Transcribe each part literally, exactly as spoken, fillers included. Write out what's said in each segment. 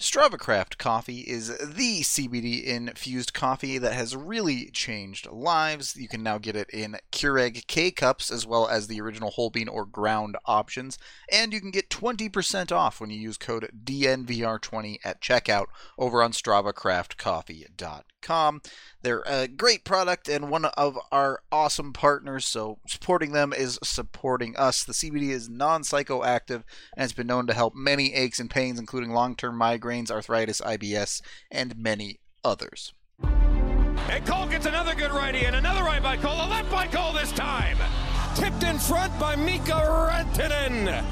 StravaCraft coffee is the C B D-infused coffee that has really changed lives. You can now get it in Keurig K-Cups as well as the original whole bean or ground options. And you can get twenty percent off when you use code D N V R twenty at checkout over on Strava Craft Coffee dot com. They're a great product and one of our awesome partners, so supporting them is supporting us. The C B D is non-psychoactive and has been known to help many aches and pains, including long-term migraines, arthritis, I B S, and many others. And Cole gets another good righty, and another right by Cole, a left by Cole this time. Tipped in front by Mika Rantanen.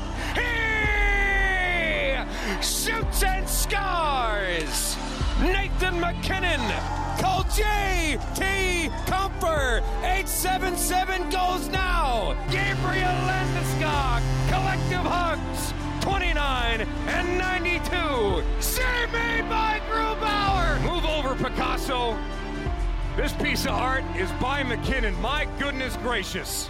He shoots and scores. Nathan MacKinnon. Cole J T Comfer. eight seven seven goes now. Gabriel Landeskog. Collective hugs. twenty-nine and ninety-two. Save made by Grubauer. Move over, Picasso. This piece of art is by McKinnon. My goodness gracious.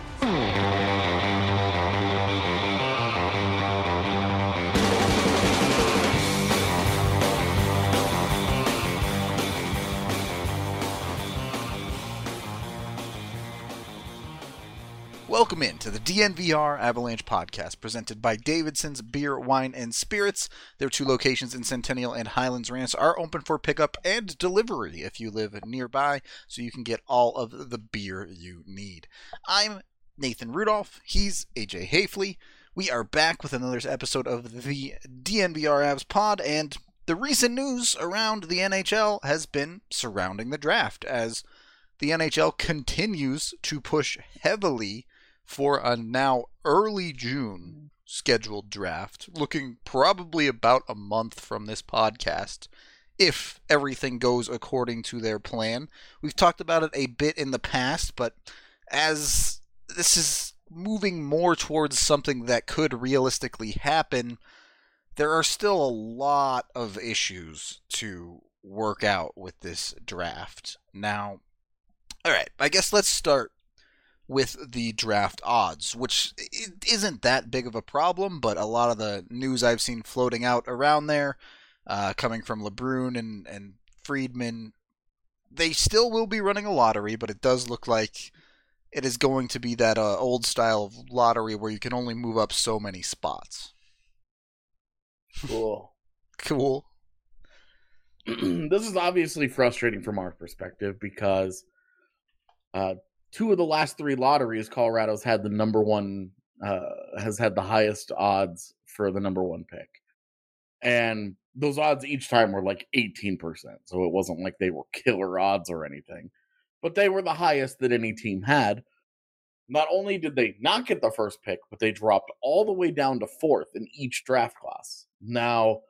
Welcome in to the D N V R Avalanche podcast presented by Davidson's Beer, Wine, and Spirits. Their two locations in Centennial and Highlands Ranch are open for pickup and delivery if you live nearby, so you can get all of the beer you need. I'm Nathan Rudolph. He's A J Hafley. We are back with another episode of the D N V R Avs pod, and the recent news around the N H L has been surrounding the draft, as the N H L continues to push heavily for a now early June scheduled draft, looking probably about a month from this podcast, if everything goes according to their plan. We've talked about it a bit in the past, but as this is moving more towards something that could realistically happen, there are still a lot of issues to work out with this draft. Now, all right, I guess let's start with the draft odds, which isn't that big of a problem, but a lot of the news I've seen floating out around there, uh, coming from LeBrun and, and Friedman, they still will be running a lottery, but it does look like it is going to be that uh, old style of lottery where you can only move up so many spots. Cool. Cool. This is obviously frustrating from our perspective because uh, two of the last three lotteries, Colorado's had the number one, uh, has had the highest odds for the number one pick. And those odds each time were like eighteen percent. So it wasn't like they were killer odds or anything. But they were the highest that any team had. Not only did they not get the first pick, but they dropped all the way down to fourth in each draft class. Now,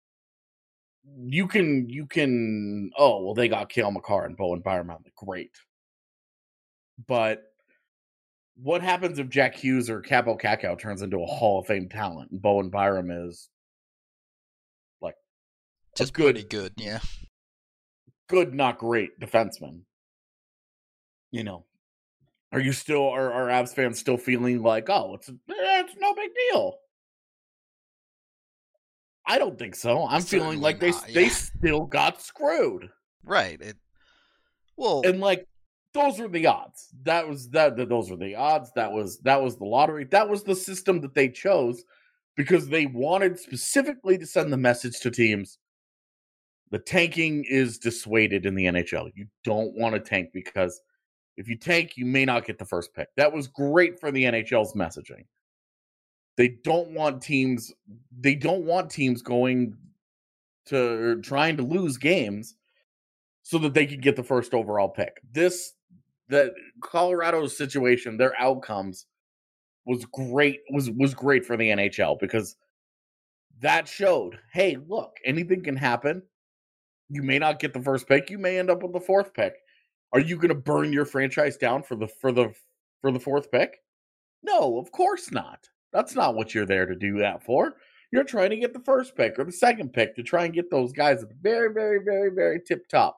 you can, you can, oh, well, they got Cale Makar and Bowen Byram. Great. But what happens if Jack Hughes or Capo Cacao turns into a Hall of Fame talent and Bowen Byram is like just good, pretty good, yeah. Good, not great defenseman. You know, are you still, are, are Avs fans still feeling like, oh, it's, it's no big deal? I don't think so. I'm Certainly feeling like not, they yeah. they still got screwed. Right. It, well, And like, those were the odds. That was that, that. Those were the odds. That was that was the lottery. That was the system that they chose because they wanted specifically to send the message to teams: the tanking is dissuaded in the N H L. You don't want to tank because if you tank, you may not get the first pick. That was great for the N H L's messaging. They don't want teams. They don't want teams going to trying to lose games so that they could get the first overall pick. This. That Colorado's situation, their outcomes was great, was was great for the N H L because that showed, hey, look, anything can happen. You may not get the first pick, you may end up with the fourth pick. Are you going to burn your franchise down for the for the for the fourth pick? No, of course not. That's not what you're there to do that for. You're trying to get the first pick or the second pick to try and get those guys at the very, very, very, very tip top.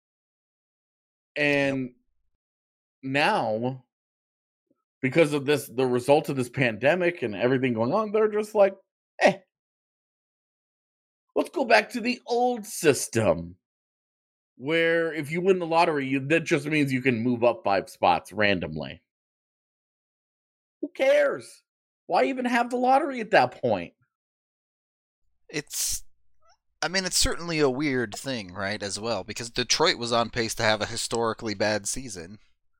And yep. Now, because of this, the result of this pandemic and everything going on, they're just like, eh. Let's go back to the old system, where if you win the lottery, you, that just means you can move up five spots randomly. Who cares? Why even have the lottery at that point? It's, I mean, it's certainly a weird thing, right, as well, because Detroit was on pace to have a historically bad season.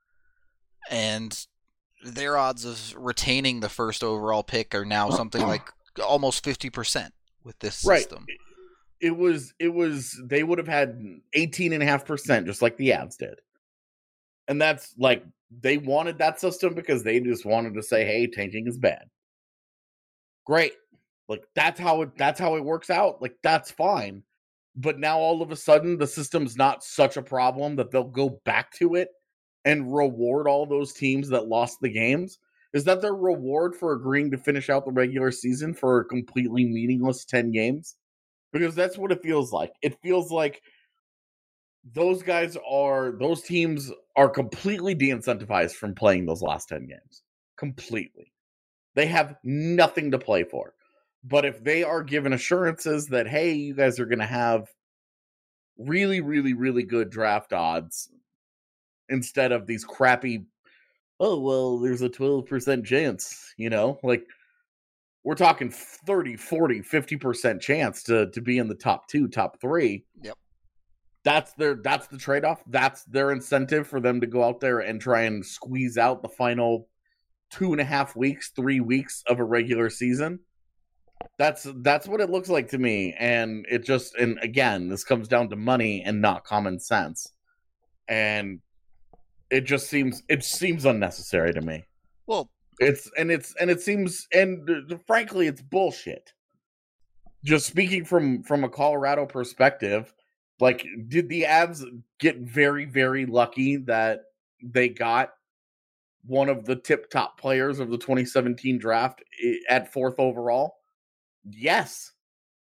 And their odds of retaining the first overall pick are now something like almost fifty percent with this system. Right. It was, it was, they would have had eighteen and a half percent just like the Avs did. And that's like, they wanted that system because they just wanted to say, hey, tanking is bad. Great. Like, that's how it, that's how it works out. Like, that's fine. But now all of a sudden, the system's not such a problem that they'll go back to it and reward all those teams that lost the games. Is that their reward for agreeing to finish out the regular season for a completely meaningless ten games? Because that's what it feels like. It feels like those guys are, those teams are completely de-incentivized from playing those last ten games. Completely. They have nothing to play for. But if they are given assurances that, hey, you guys are going to have really, really, really good draft odds instead of these crappy, oh, well, there's a twelve percent chance, you know, like we're talking thirty, forty, fifty percent chance to, to be in the top two, top three. Yep. That's their, that's the trade-off. That's their incentive for them to go out there and try and squeeze out the final two and a half weeks, three weeks of a regular season. That's, that's what it looks like to me. And it just, and again, this comes down to money and not common sense. And it just seems, it seems unnecessary to me. Well, it's, and it's, and it seems, and uh, frankly, it's bullshit. Just speaking from, from a Colorado perspective, like, did the Avs get very, very lucky that they got one of the tip top players of the twenty seventeen draft at fourth overall? Yes.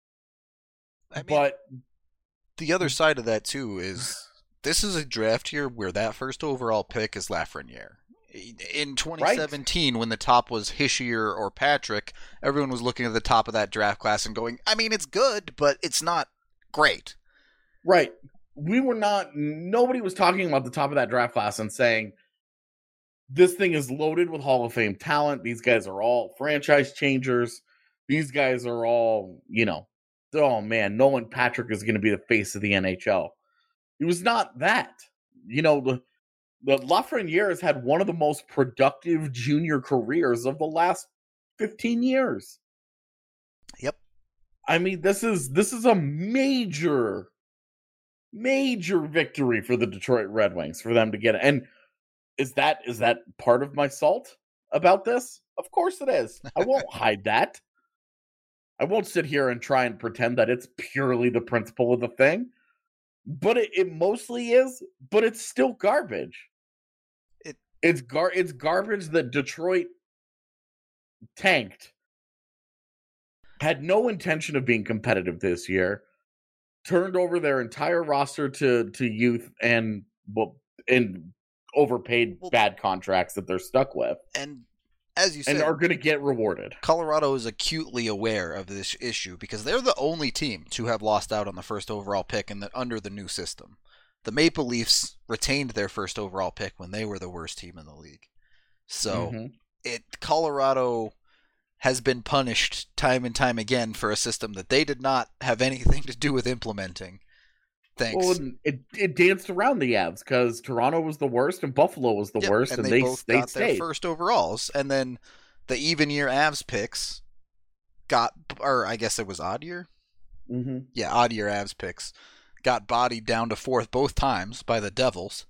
I mean, but the other side of that, too, is this is a draft year where that first overall pick is Lafreniere. In twenty seventeen, right, when the top was Hischier or Patrick, everyone was looking at the top of that draft class and going, I mean, it's good, but it's not great. Right. We were not, nobody was talking about the top of that draft class and saying, this thing is loaded with Hall of Fame talent. These guys are all franchise changers. These guys are all, you know, oh man, Nolan Patrick is going to be the face of the N H L. It was not that. You know, the, the Lafreniere has had one of the most productive junior careers of the last fifteen years. Yep. I mean, this is this is a major, major victory for the Detroit Red Wings for them to get it. And is that is that part of my salt about this? Of course it is. I won't hide that. I won't sit here and try and pretend that it's purely the principle of the thing. But it, it mostly is, but it's still garbage. It it's gar it's garbage that Detroit tanked. Had no intention of being competitive this year. Turned over their entire roster to to youth and well and overpaid well, bad contracts that they're stuck with. And as you said, and are going to get rewarded. Colorado is acutely aware of this issue because they're the only team to have lost out on the first overall pick in the, under the new system. The Maple Leafs retained their first overall pick when they were the worst team in the league. So mm-hmm. it Colorado has been punished time and time again for a system that they did not have anything to do with implementing. Thanks. Well, it it danced around the Avs because Toronto was the worst and Buffalo was the yep, worst, and, and they, they both they got stayed. Their first overalls, and then the even year Avs picks got, or I guess it was odd year. Mm-hmm. Yeah, odd year Avs picks got bodied down to fourth both times by the Devils.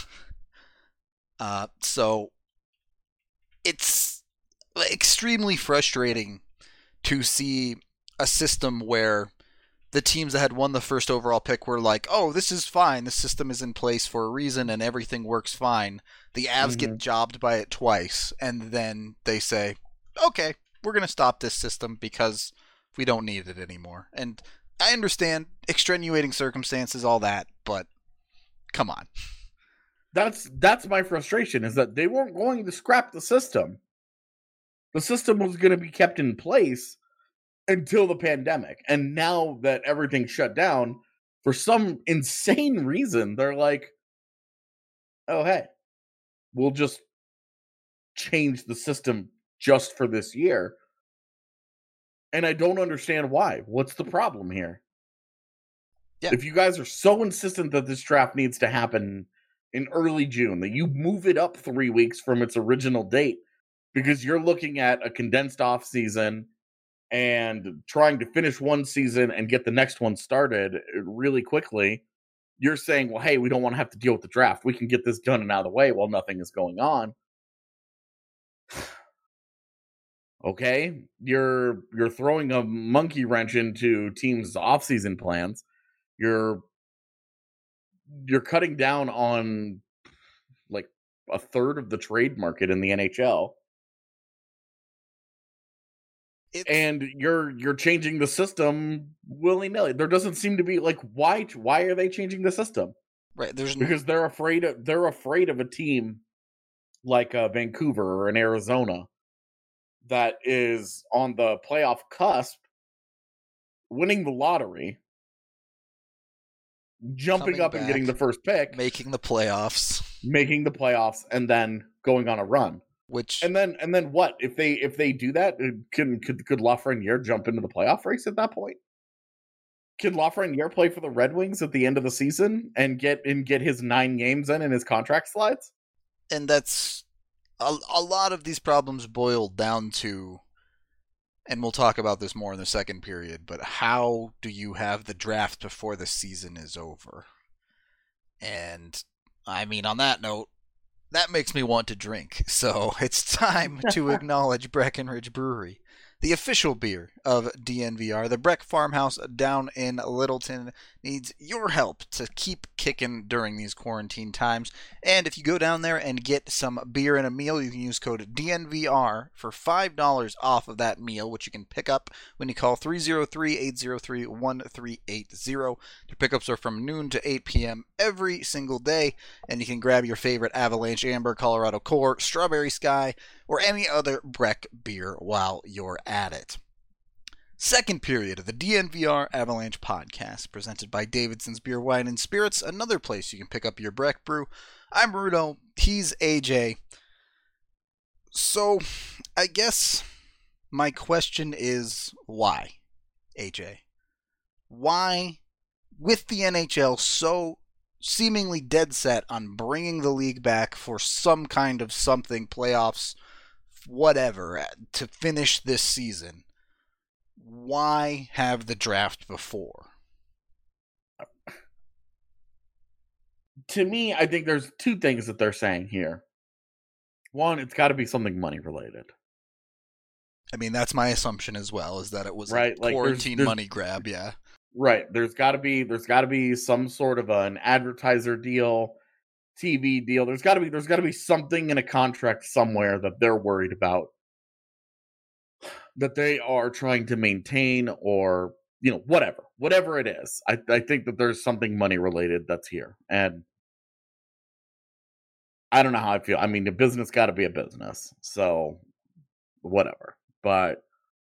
uh, so it's extremely frustrating to see a system where the teams that had won the first overall pick were like, oh, this is fine. The system is in place for a reason and everything works fine. The Avs mm-hmm. get jobbed by it twice. And then they say, okay, we're going to stop this system because we don't need it anymore. And I understand extenuating circumstances, all that, but come on. That's, that's my frustration is that they weren't going to scrap the system. The system was going to be kept in place. until the pandemic. And now that everything's shut down, for some insane reason, they're like, oh, hey, we'll just change the system just for this year. And I don't understand why. What's the problem here? Yeah. If you guys are so insistent that this draft needs to happen in early June, that you move it up three weeks from its original date because you're looking at a condensed off season and trying to finish one season and get the next one started really quickly, you're saying, well, hey, we don't want to have to deal with the draft. We can get this done and out of the way while nothing is going on. Okay, you're you're throwing a monkey wrench into teams' off-season plans. You're you're cutting down on like a third of the trade market in the N H L. It's, and you're you're changing the system willy-nilly. There doesn't seem to be like why why are they changing the system? Right, there's because no... they're afraid of they're afraid of a team like uh, Vancouver or an Arizona that is on the playoff cusp, winning the lottery, jumping Coming up back, and getting the first pick, making the playoffs, making the playoffs, and then going on a run. Which and then and then what if they if they do that? Can could could Lafreniere jump into the playoff race at that point? Can Lafreniere play for the Red Wings at the end of the season and get and get his nine games in and his contract slides? And that's a, a lot of these problems boil down to, and we'll talk about this more in the second period, but how do you have the draft before the season is over? And I mean, on that note, that makes me want to drink. So it's time to acknowledge Breckenridge Brewery, the official beer of D N V R. The Breck Farmhouse down in Littleton needs your help to keep kicking during these quarantine times. And if you go down there and get some beer and a meal, you can use code D N V R for five dollars off of that meal, which you can pick up when you call three oh three, eight oh three, one three eight oh. Their pickups are from noon to eight p.m. every single day, and you can grab your favorite Avalanche Amber, Colorado Core, Strawberry Sky, or any other Breck beer while you're at it. Second period of the D N V R Avalanche podcast, presented by Davidson's Beer, Wine, and Spirits, another place you can pick up your Breck brew. I'm Rudo, he's A J. So, I guess my question is, why, A J? Why, with the N H L so seemingly dead set on bringing the league back for some kind of something, playoffs, whatever, to finish this season, why have the draft before? To me, I think there's two things that they're saying here. One, it's got to be something money related. I mean, that's my assumption as well, is that it was right, a like quarantine there's, there's, money grab, yeah. Right. There's got to be there's got to be some sort of an advertiser deal, T V deal. There's got to be there's got to be something in a contract somewhere that they're worried about, that they are trying to maintain, or, you know, whatever, whatever it is. I, I think that there's something money related that's here. And I don't know how I feel. I mean, the business got to be a business. So whatever. But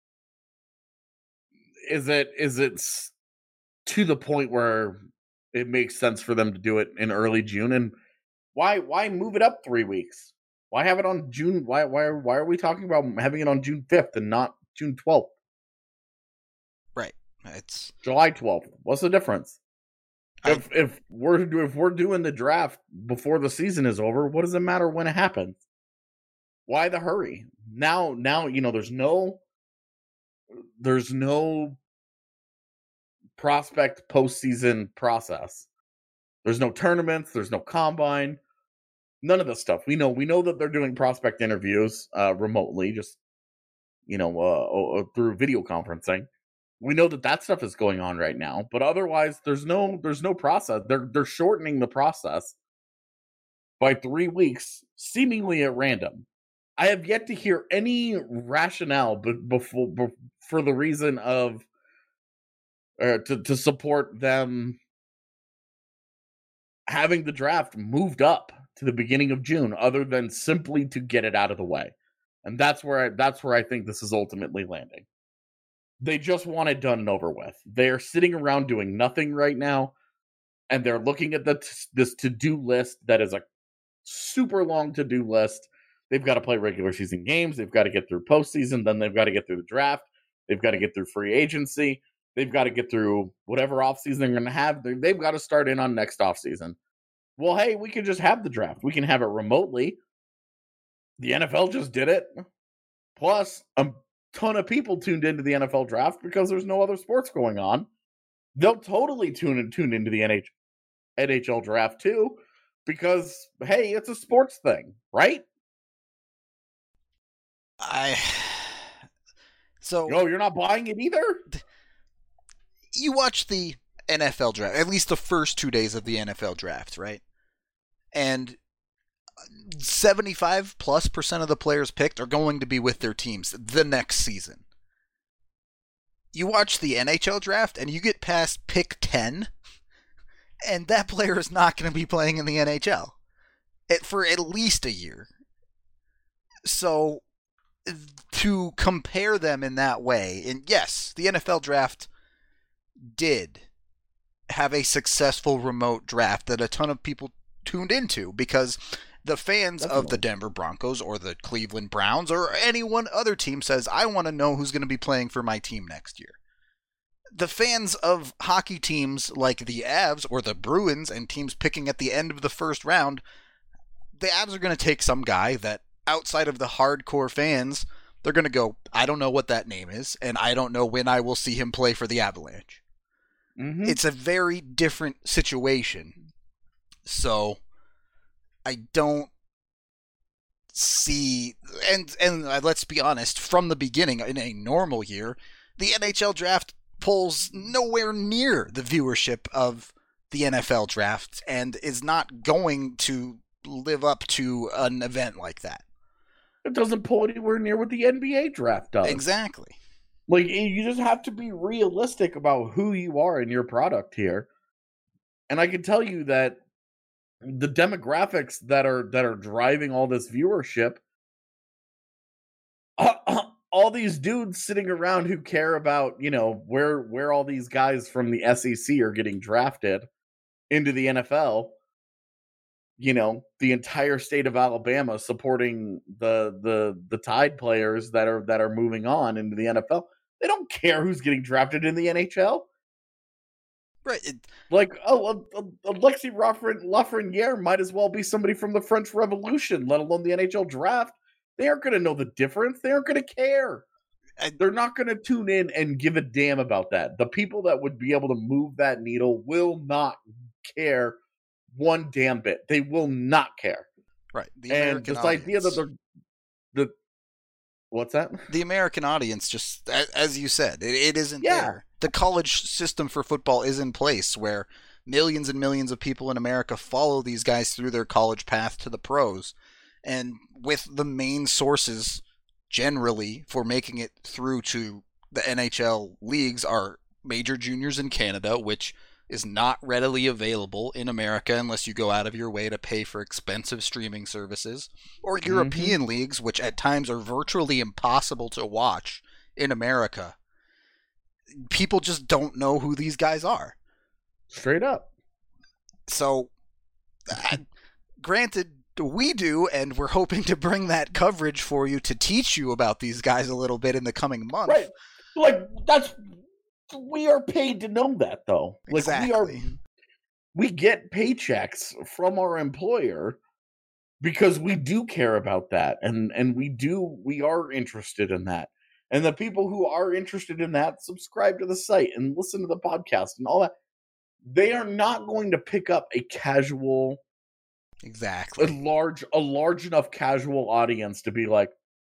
is it, is it to the point where it makes sense for them to do it in early June? And why, why move it up three weeks? Why have it on June? Why, why, why are we talking about having it on June fifth and not June twelfth? Right. It's July twelfth. What's the difference? I, if if we're if we're doing the draft before the season is over, what does it matter when it happens? Why the hurry? Now, now you know there's no there's no prospect postseason process. There's no tournaments. There's no combine. None of this stuff. We know we know that they're doing prospect interviews uh, remotely, just you know, uh, through video conferencing. We know that that stuff is going on right now, but otherwise, there's no there's no process. They're they're shortening the process by three weeks, seemingly at random. I have yet to hear any rationale b- before b- for the reason of uh, to to support them having the draft moved up to the beginning of June, other than simply to get it out of the way. And that's where I, that's where I think this is ultimately landing. They just want it done and over with. They're sitting around doing nothing right now, and they're looking at the t- this to-do list that is a super long to-do list. They've got to play regular season games. They've got to get through postseason. Then they've got to get through the draft. They've got to get through free agency. They've got to get through whatever offseason they're going to have. They've got to start in on next offseason. Well, hey, we can just have the draft. We can have it remotely. The N F L just did it. Plus, a ton of people tuned into the N F L draft because there's no other sports going on. They'll totally tune in, tune into the N H L draft too because, hey, it's a sports thing, right? I... So... No, you're not buying it either? You watch the N F L draft, at least the first two days of the N F L draft, right? And seventy-five plus percent of the players picked are going to be with their teams the next season. You watch the N H L draft and you get past pick ten, and that player is not going to be playing in the N H L it, for at least a year. So to compare them in that way, and yes, the N F L draft did have a successful remote draft that a ton of people tuned into because the fans Definitely. of the Denver Broncos or the Cleveland Browns or any one other team says, I want to know who's going to be playing for my team next year. The fans of hockey teams like the Avs or the Bruins and teams picking at the end of the first round, the Avs are going to take some guy that outside of the hardcore fans, they're going to go, I don't know what that name is, and I don't know when I will see him play for the Avalanche. Mm-hmm. It's a very different situation. So I don't see, and and let's be honest, from the beginning, in a normal year, the N H L draft pulls nowhere near the viewership of the N F L draft and is not going to live up to an event like that. It doesn't pull anywhere near what the N B A draft does. Exactly. Like, you just have to be realistic about who you are in your product here. And I can tell you that the demographics that are that are driving all this viewership, uh, uh, all these dudes sitting around who care about, you know, where where all these guys from the S E C are getting drafted into the N F L, you know, the entire state of Alabama supporting the the the Tide players that are that are moving on into the N F L. They don't care who's getting drafted in the N H L. Right. It, like, oh, uh, uh, Alexis Lafreniere might as well be somebody from the French Revolution, let alone the N H L draft. They aren't going to know the difference. They aren't going to care. I, They're not going to tune in and give a damn about that. The people that would be able to move that needle will not care one damn bit. They will not care. Right. The and American this audience. idea that they're the what's that? The American audience, just as you said, it, it isn't yeah. there. The college system for football is in place where millions and millions of people in America follow these guys through their college path to the pros. And with the main sources generally for making it through to the N H L leagues are major juniors in Canada, which is not readily available in America unless you go out of your way to pay for expensive streaming services, or European mm-hmm. leagues, which at times are virtually impossible to watch in America. People just don't know who these guys are. Straight up. So, uh, granted, we do, and we're hoping to bring that coverage for you to teach you about these guys a little bit in the coming month. Right. Like, that's... We are paid to know that, though. Like, exactly. We are, we get paychecks from our employer because we do care about that, and and we do we are interested in that. And the people who are interested in that subscribe to the site and listen to the podcast and all that. They are not going to pick up a casual, exactly, a large a large enough casual audience to be like,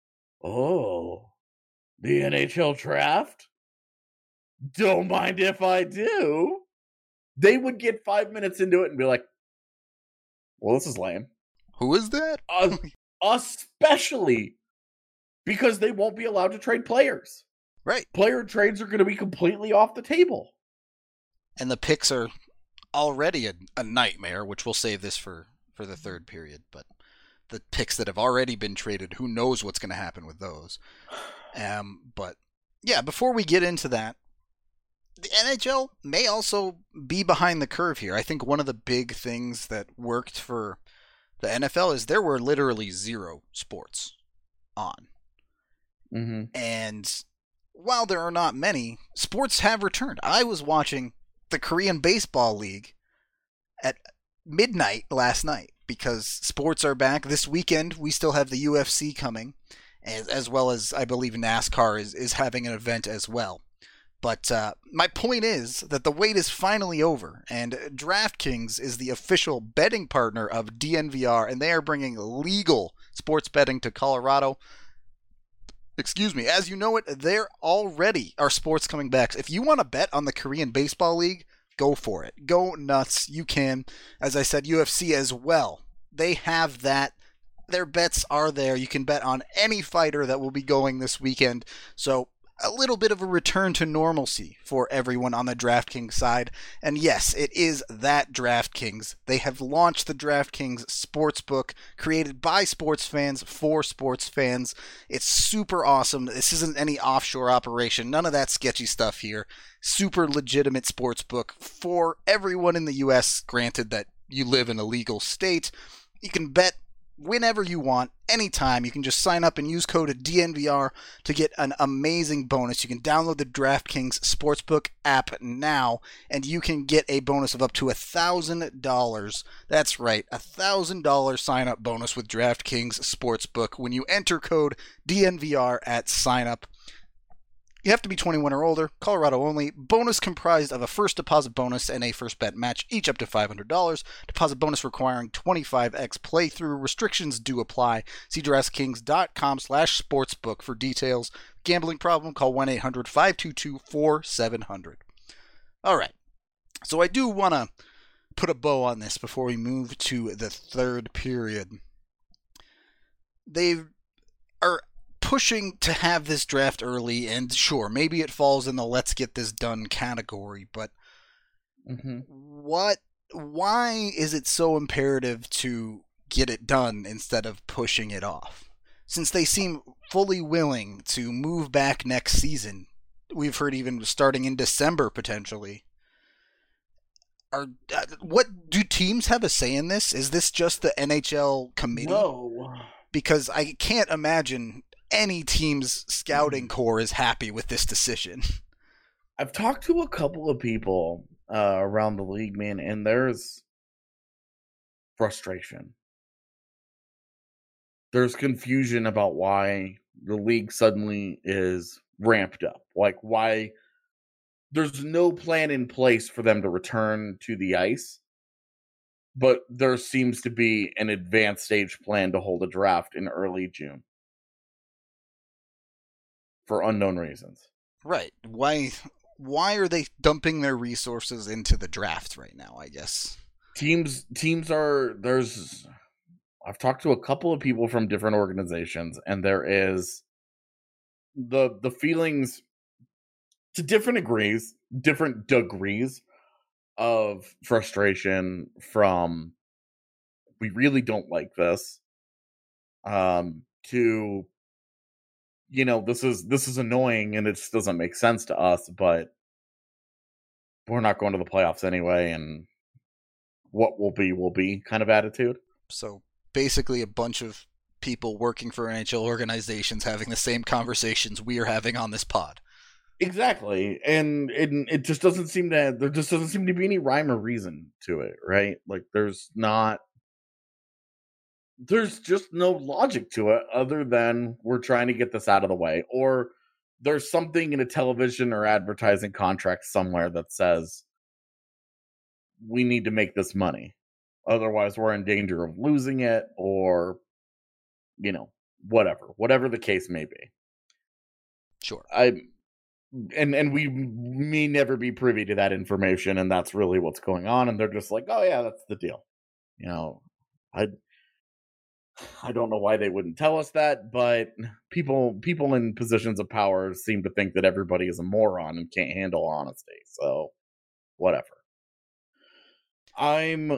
oh, the N H L draft. Don't mind if I do. They would get five minutes into it and be like, well, this is lame. Who is that? Uh, especially because they won't be allowed to trade players. Right. Player trades are going to be completely off the table. And the picks are already a, a nightmare, which we'll save this for, for the third period. But the picks that have already been traded, who knows what's going to happen with those. Um, but yeah, before we get into that, the N H L may also be behind the curve here. I think one of the big things that worked for the N F L is there were literally zero sports on. Mm-hmm. And while there are not many, sports have returned. I was watching the Korean Baseball League at midnight last night because sports are back. This weekend, we still have the U F C coming, as, as well as, I believe, NASCAR is, is having an event as well. But uh, my point is that the wait is finally over, and DraftKings is the official betting partner of D N V R, and they are bringing legal sports betting to Colorado. Excuse me. As you know it, there already are sports coming back. If you want to bet on the Korean Baseball League, go for it. Go nuts. You can. As I said, U F C as well. They have that. Their bets are there. You can bet on any fighter that will be going this weekend. So a little bit of a return to normalcy for everyone on the DraftKings side. And yes, it is that DraftKings. They have launched the DraftKings Sportsbook, created by sports fans for sports fans. It's super awesome. This isn't any offshore operation. None of that sketchy stuff here. Super legitimate sportsbook for everyone in the U S, granted that you live in a legal state. You can bet whenever you want, anytime. You can just sign up and use code D N V R to get an amazing bonus. You can download the DraftKings Sportsbook app now, and you can get a bonus of up to one thousand dollars. That's right, a one thousand dollars sign-up bonus with DraftKings Sportsbook when you enter code D N V R at sign-up. You have to be twenty-one or older, Colorado only. Bonus comprised of a first deposit bonus and a first bet match, each up to five hundred dollars. Deposit bonus requiring twenty-five x playthrough. Restrictions do apply. See DraftKings.com slash sportsbook for details. Gambling problem? Call one eight hundred five two two four seven zero zero. All right. So I do want to put a bow on this before we move to the third period. They are pushing to have this draft early, and sure, maybe it falls in the let's get this done category, but mm-hmm. what why is it so imperative to get it done instead of pushing it off? Since they seem fully willing to move back next season, we've heard even starting in December potentially. Are uh, what do teams have a say in this? Is this just the N H L committee? No. Because I can't imagine any team's scouting core is happy with this decision. I've talked to a couple of people uh, around the league, man, and there's frustration. There's confusion about why the league suddenly is ramped up. Like, why there's no plan in place for them to return to the ice, but there seems to be an advanced stage plan to hold a draft in early June. For unknown reasons. Right. Why why are they dumping their resources into the draft right now, I guess? Teams teams are there's I've talked to a couple of people from different organizations, and there is the the feelings to different degrees, different degrees of frustration from we really don't like this um to you know, this is this is annoying and it just doesn't make sense to us, but we're not going to the playoffs anyway, and what will be will be kind of attitude. So basically a bunch of people working for N H L organizations having the same conversations we are having on this pod. Exactly. And it, it just doesn't seem to there just doesn't seem to be any rhyme or reason to it, right? Like there's not There's just no logic to it other than we're trying to get this out of the way. Or there's something in a television or advertising contract somewhere that says we need to make this money. Otherwise, we're in danger of losing it or, you know, whatever. Whatever the case may be. Sure. I and and we may never be privy to that information, and that's really what's going on. And they're just like, oh, yeah, that's the deal. You know, I... I don't know why they wouldn't tell us that, but people people in positions of power seem to think that everybody is a moron and can't handle honesty. So, whatever. I'm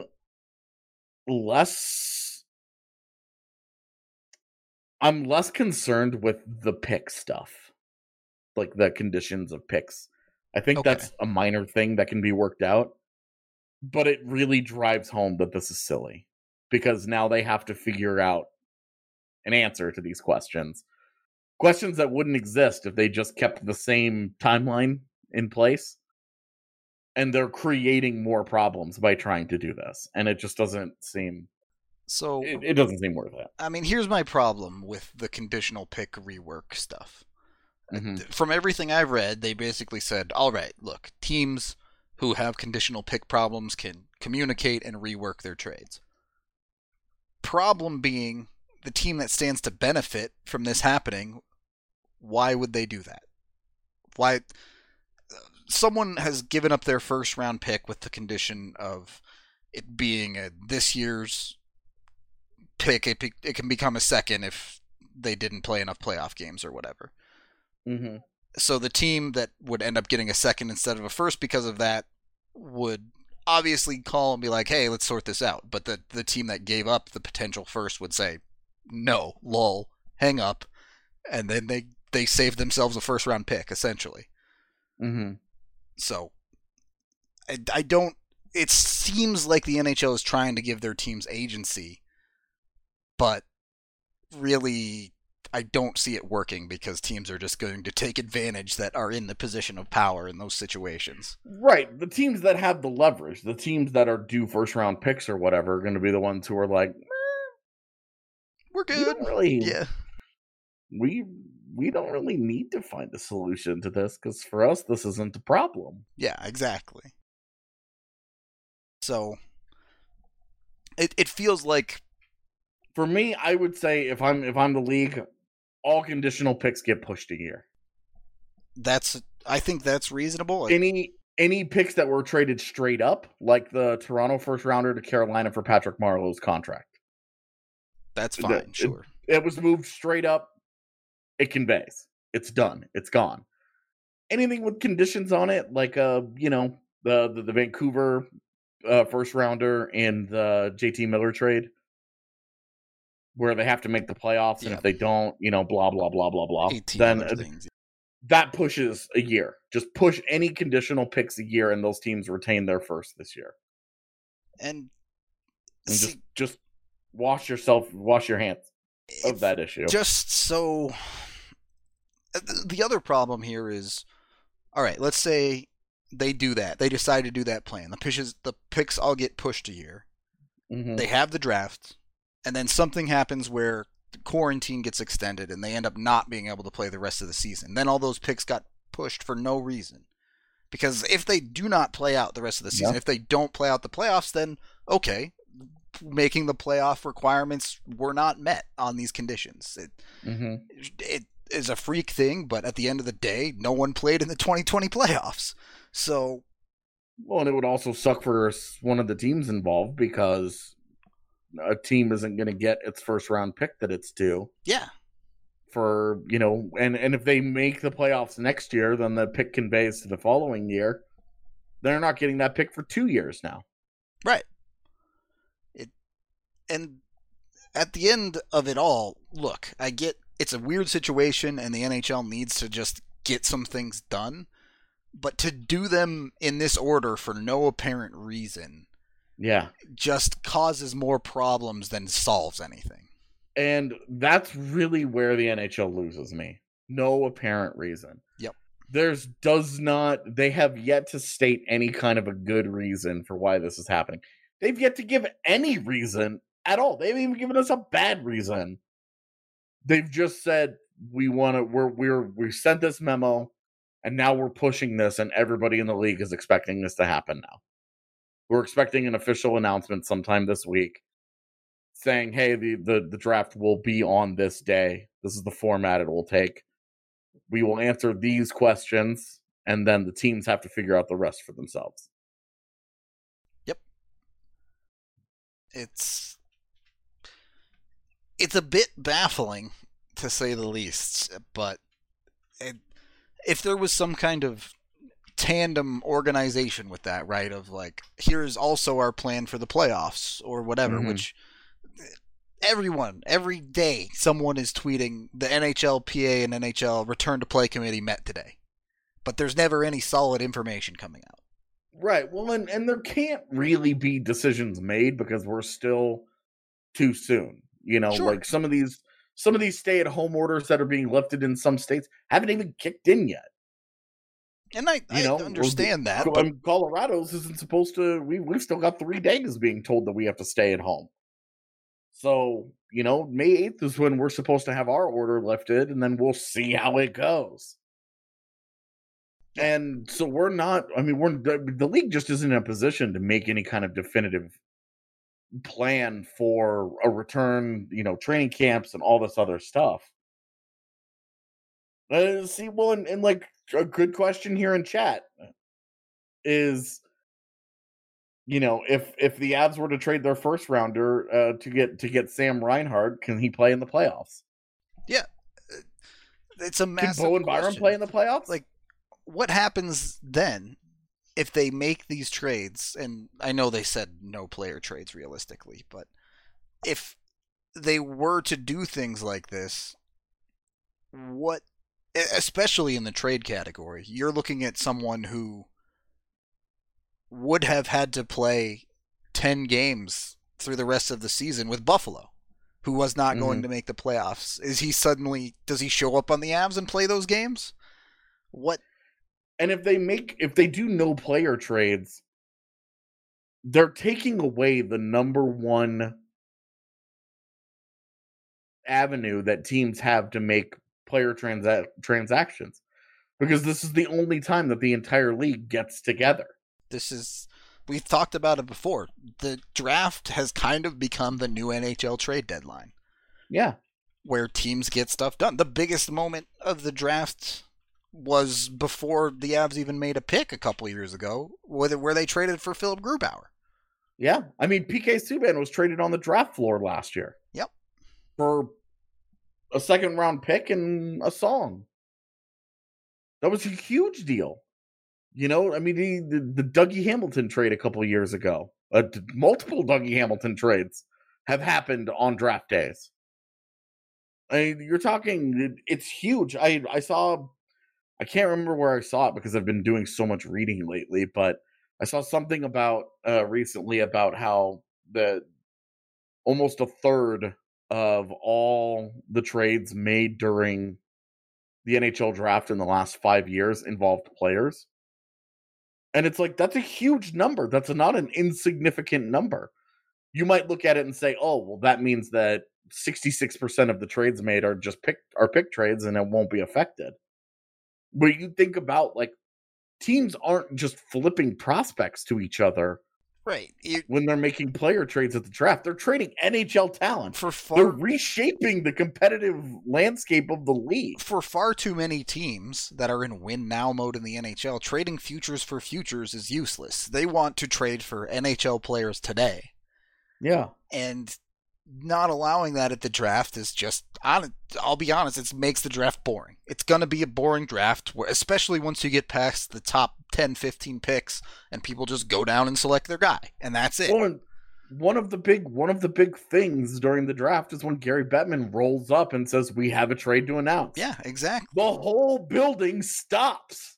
less I'm less concerned with the pick stuff. like the conditions of picks. I think Okay. that's a minor thing that can be worked out, but it really drives home that this is silly because now they have to figure out an answer to these questions. Questions that wouldn't exist if they just kept the same timeline in place. And they're creating more problems by trying to do this. And it just doesn't seem... So It, it doesn't seem worth it. I mean, here's my problem with the conditional pick rework stuff. Mm-hmm. From everything I've read, they basically said, all right, look, teams who have conditional pick problems can communicate and rework their trades. Problem being, the team that stands to benefit from this happening, why would they do that? Why... Someone has given up their first round pick with the condition of it being a this year's pick. It, it can become a second if they didn't play enough playoff games or whatever. Mm-hmm. So the team that would end up getting a second instead of a first because of that would obviously call and be like, hey, let's sort this out. But the, the team that gave up the potential first would say, no, lol, hang up. And then they, they saved themselves a first round pick, essentially. Mm-hmm. So, I, I don't... It seems like the N H L is trying to give their teams agency, but really, I don't see it working because teams are just going to take advantage that are in the position of power in those situations. Right. The teams that have the leverage, the teams that are due first-round picks or whatever, are going to be the ones who are like, eh, We're we good. don't really... Yeah. We... we don't really need to find a solution to this because for us, this isn't a problem. Yeah, exactly. So, it it feels like... For me, I would say if I'm if I'm the league, all conditional picks get pushed a year. That's... I think that's reasonable. Any any picks that were traded straight up, like the Toronto first rounder to Carolina for Patrick Marleau's contract. That's fine, It- sure. It, it was moved straight up. It conveys. It's done. It's gone. Anything with conditions on it, like uh, you know, the the, the Vancouver uh, first rounder and the J T Miller trade, where they have to make the playoffs, and Yeah. if they don't, you know, blah blah blah blah blah. eighteen Then other uh, things. that pushes a year. Just push any conditional picks a year, and those teams retain their first this year. And, And see, just just wash yourself, wash your hands of if- that issue. Just so... The other problem here is, all right, let's say they do that. They decide to do that plan. The pitches, the picks all get pushed a year. Mhm. They have the draft, and then something happens where the quarantine gets extended and they end up not being able to play the rest of the season. Then all those picks got pushed for no reason. Because if they do not play out the rest of the season, Yeah. if they don't play out the playoffs, then okay, making the playoff requirements were not met on these conditions. It, Mhm. it is a freak thing, but at the end of the day, no one played in the twenty twenty playoffs. So, Well, and it would also suck for s- one of the teams involved because a team isn't going to get its first round pick that it's due yeah. for, you know, and, and if they make the playoffs next year, then the pick conveys to the following year. They're not getting that pick for two years now. Right. It and at the end of it all, look, I get it's a weird situation and the N H L needs to just get some things done, but to do them in this order for no apparent reason Yeah. just causes more problems than solves anything. And that's really where the N H L loses me. No apparent reason. Yep. There's does not, they have yet to state any kind of a good reason for why this is happening. They've yet to give any reason at all. They haven't even given us a bad reason. They've just said, we want to, we're, we're, we sent this memo and now we're pushing this and everybody in the league is expecting this to happen now. We're expecting an official announcement sometime this week saying, hey, the, the, the draft will be on this day. This is the format it will take. We will answer these questions, and then the teams have to figure out the rest for themselves. Yep. It's it's a bit baffling, to say the least, but it, if there was some kind of tandem organization with that, right, of like, here's also our plan for the playoffs or whatever, Mhm. which everyone, every day, someone is tweeting the N H L P A and N H L Return to Play Committee met today. But there's never any solid information coming out. Right. Well, and, and there can't really be decisions made because we're still too soon. You know, Sure. like some of these some of these stay-at-home orders that are being lifted in some states haven't even kicked in yet. And I, You I know, understand well, that. Co- But um, Colorado's isn't supposed to. We we've still got three days being told that we have to stay at home. So you know, May eighth is when we're supposed to have our order lifted, and then we'll see how it goes. And so we're not. I mean, we're the, the league just isn't in a position to make any kind of definitive plan for a return. You know, training camps and all this other stuff. Uh, see, well, and, and like a good question here in chat is, you know, if if the Avs were to trade their first rounder uh, to get to get Sam Reinhart, can he play in the playoffs? yeah, it's a massive Can Bowen Byram question. play in the playoffs? Like, what happens then if they make these trades? And I know they said no player trades realistically, but if they were to do things like this, what, especially in the trade category, you're looking at someone who would have had to play ten games through the rest of the season with Buffalo, who was not mm-hmm. going to make the playoffs. Is he suddenly, does he show up on the Avs and play those games? What? And if they make, if they do no player trades, they're taking away the number one avenue that teams have to make player transa- transactions, because this is the only time that the entire league gets together. This is, we've talked about it before. The draft has kind of become the new N H L trade deadline. Yeah. Where teams get stuff done. The biggest moment of the draft was before the Avs even made a pick a couple years ago, where they traded for Philip Grubauer. Yeah. I mean, P K Subban was traded on the draft floor last year. Yep. For a second round pick and a song. That was a huge deal. You know, I mean, the, the, the Dougie Hamilton trade a couple of years ago, uh, multiple Dougie Hamilton trades have happened on draft days. I mean, you're talking, it's huge. I, I saw, I can't remember where I saw it because I've been doing so much reading lately, but I saw something about uh, recently about how the almost a third of all the trades made during the N H L draft in the last five years involved players. And it's like, that's a huge number. That's not an insignificant number. You might look at it and say, oh, well, that means that sixty-six percent of the trades made are just pick are pick trades and it won't be affected. But you think about, like, teams aren't just flipping prospects to each other. Right. You, when they're making player trades at the draft, they're trading N H L talent. For far, they're reshaping the competitive landscape of the league. For far too many teams that are in win now mode in the N H L, trading futures for futures is useless. They want to trade for N H L players today. Yeah. And not allowing that at the draft is just, I'll be honest, it makes the draft boring. It's going to be a boring draft, especially once you get past the top ten, fifteen picks and people just go down and select their guy, and that's it. Well, one of the big one of the big things during the draft is when Gary Bettman rolls up and says, we have a trade to announce. Yeah, exactly. The whole building stops.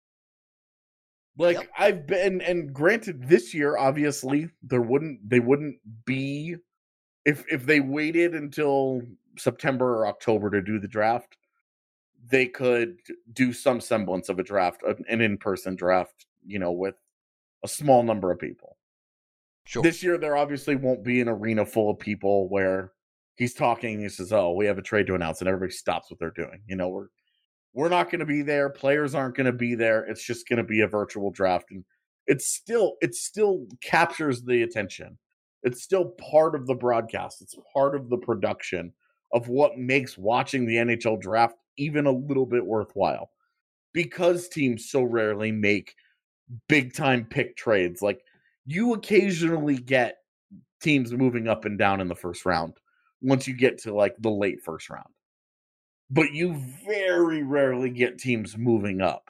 Like, yep. I've been, and granted, this year, obviously, there wouldn't, they wouldn't be, if if they waited until September or October to do the draft, they could do some semblance of a draft, an in-person draft, you know, with a small number of people. Sure. This year, there obviously won't be an arena full of people where he's talking, he says, oh, we have a trade to announce, and everybody stops what they're doing. You know, we're we're not going to be there. Players aren't going to be there. It's just going to be a virtual draft. And it's still, it still captures the attention. It's still part of the broadcast. It's part of the production of what makes watching the N H L draft even a little bit worthwhile, because teams so rarely make big time pick trades. Like, you occasionally get teams moving up and down in the first round once you get to like the late first round, but you very rarely get teams moving up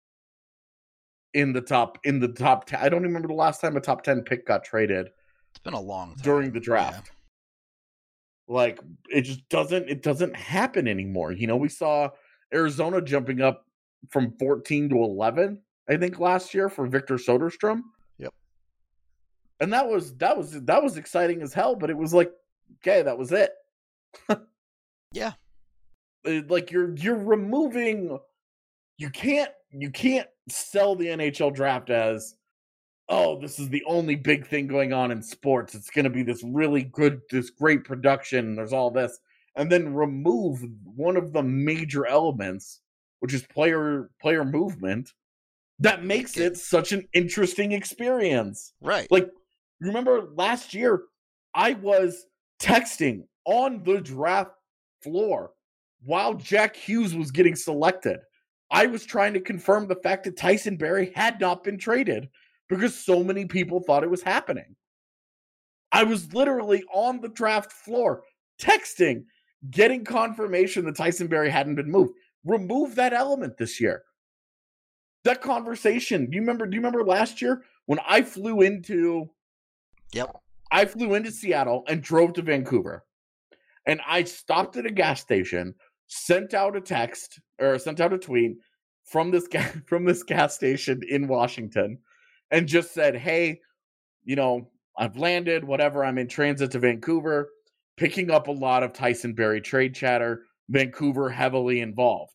in the top, in the top ten. I don't remember the last time a top ten pick got traded. It's been a long time during the draft. Like, it just doesn't, it doesn't happen anymore. You know, we saw Arizona jumping up from fourteen to eleven, I think, last year for Victor Soderstrom. Yep. And that was, that was, that was exciting as hell, but it was like, okay, that was it. Yeah. It, like, you're, you're removing, you can't, you can't sell the N H L draft as, oh, this is the only big thing going on in sports. It's going to be this really good, this great production. There's all this. And then remove one of the major elements, which is player player movement, that makes it such an interesting experience. Right. Like, remember last year, I was texting on the draft floor while Jack Hughes was getting selected. I was trying to confirm the fact that Tyson Barrie had not been traded because so many people thought it was happening. I was literally on the draft floor texting, getting confirmation that Tyson Barrie hadn't been moved. Remove that element this year. That conversation. Do you remember? Do you remember last year when I flew into? Yep. I flew into Seattle and drove to Vancouver, and I stopped at a gas station, sent out a text or sent out a tweet from this ga- from this gas station in Washington, and just said, "Hey, you know, I've landed. Whatever. I'm in transit to Vancouver, picking up a lot of Tyson Barrie trade chatter. Vancouver heavily involved."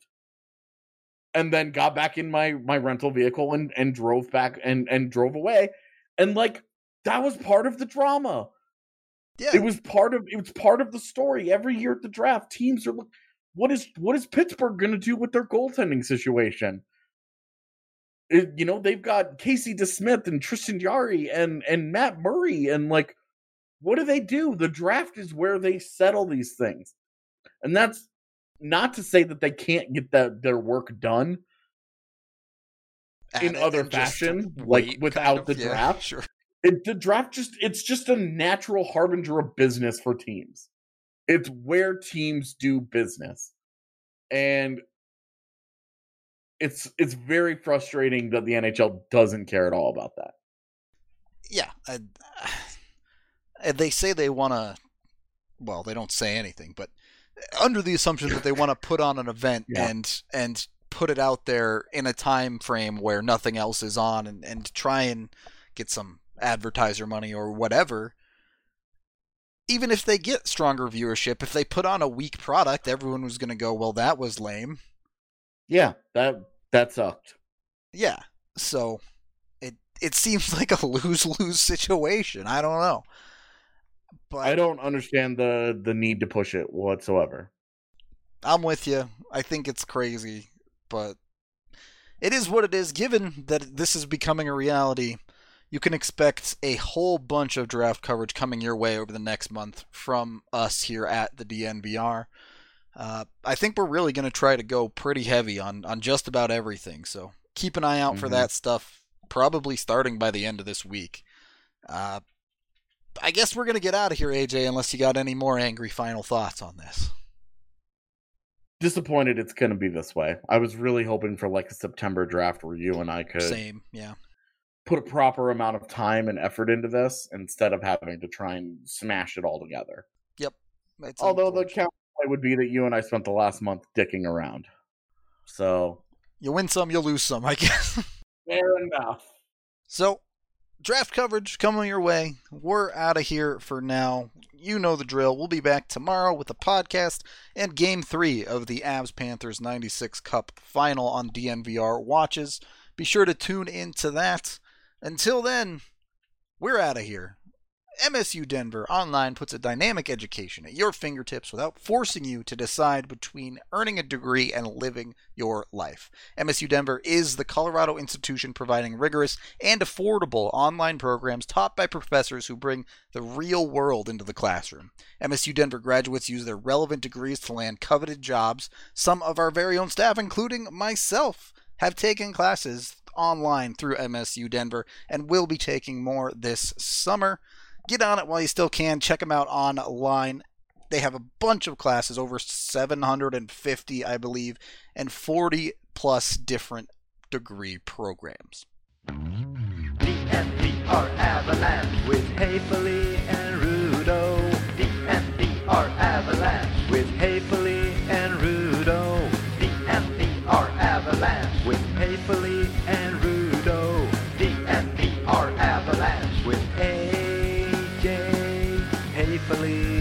And then got back in my my rental vehicle and and drove back and and drove away, and like that was part of the drama. Yeah, it was part of it was part of the story. Every year at the draft, teams are look. What is what is Pittsburgh going to do with their goaltending situation? It, you know, they've got Casey DeSmith and Tristan Jarry and and Matt Murray, and like, what do they do? The draft is where they settle these things, and that's not to say that they can't get that their work done in other fashion, like without kind of, the yeah, draft. Sure. It, the draft just it's just a natural harbinger of business for teams. It's where teams do business. And it's it's very frustrating that the N H L doesn't care at all about that. Yeah. I, I, they say they want to, well, they don't say anything, but under the assumption that they want to put on an event yeah. and and put it out there in a time frame where nothing else is on, and, and try and get some advertiser money or whatever. Even if they get stronger viewership, if they put on a weak product, everyone was going to go, well, that was lame. Yeah, that that sucked. Yeah, so it it seems like a lose-lose situation. I don't know. But I don't understand the, the need to push it whatsoever. I'm with you. I think it's crazy, but it is what it is. Given that this is becoming a reality, you can expect a whole bunch of draft coverage coming your way over the next month from us here at the D N V R. Uh, I think we're really going to try to go pretty heavy on, on just about everything, so keep an eye out mm-hmm. for that stuff, probably starting by the end of this week. Uh, I guess we're going to get out of here, A J, unless you got any more angry final thoughts on this. Disappointed it's going to be this way. I was really hoping for like a September draft where you and I could Same, yeah. put a proper amount of time and effort into this instead of having to try and smash it all together. Yep. It's Although the counterpoint would be that you and I spent the last month dicking around. So you win some, you lose some, I guess. Fair enough. So draft coverage coming your way. We're out of here for now. You know the drill. We'll be back tomorrow with a podcast and game three of the Avs Panthers ninety-six Cup final on D N V R Watches. Be sure to tune into that. Until then, we're out of here. M S U Denver Online puts a dynamic education at your fingertips without forcing you to decide between earning a degree and living your life. M S U Denver is the Colorado institution providing rigorous and affordable online programs taught by professors who bring the real world into the classroom. M S U Denver graduates use their relevant degrees to land coveted jobs. Some of our very own staff, including myself, have taken classes online through M S U Denver and will be taking more this summer. Get on it while you still can. Check them out online. They have a bunch of classes, over seven hundred fifty, I believe, and forty plus different degree programs. D N V R Avalanche with Haefele and Rudo. D N V R Avalanche. believe.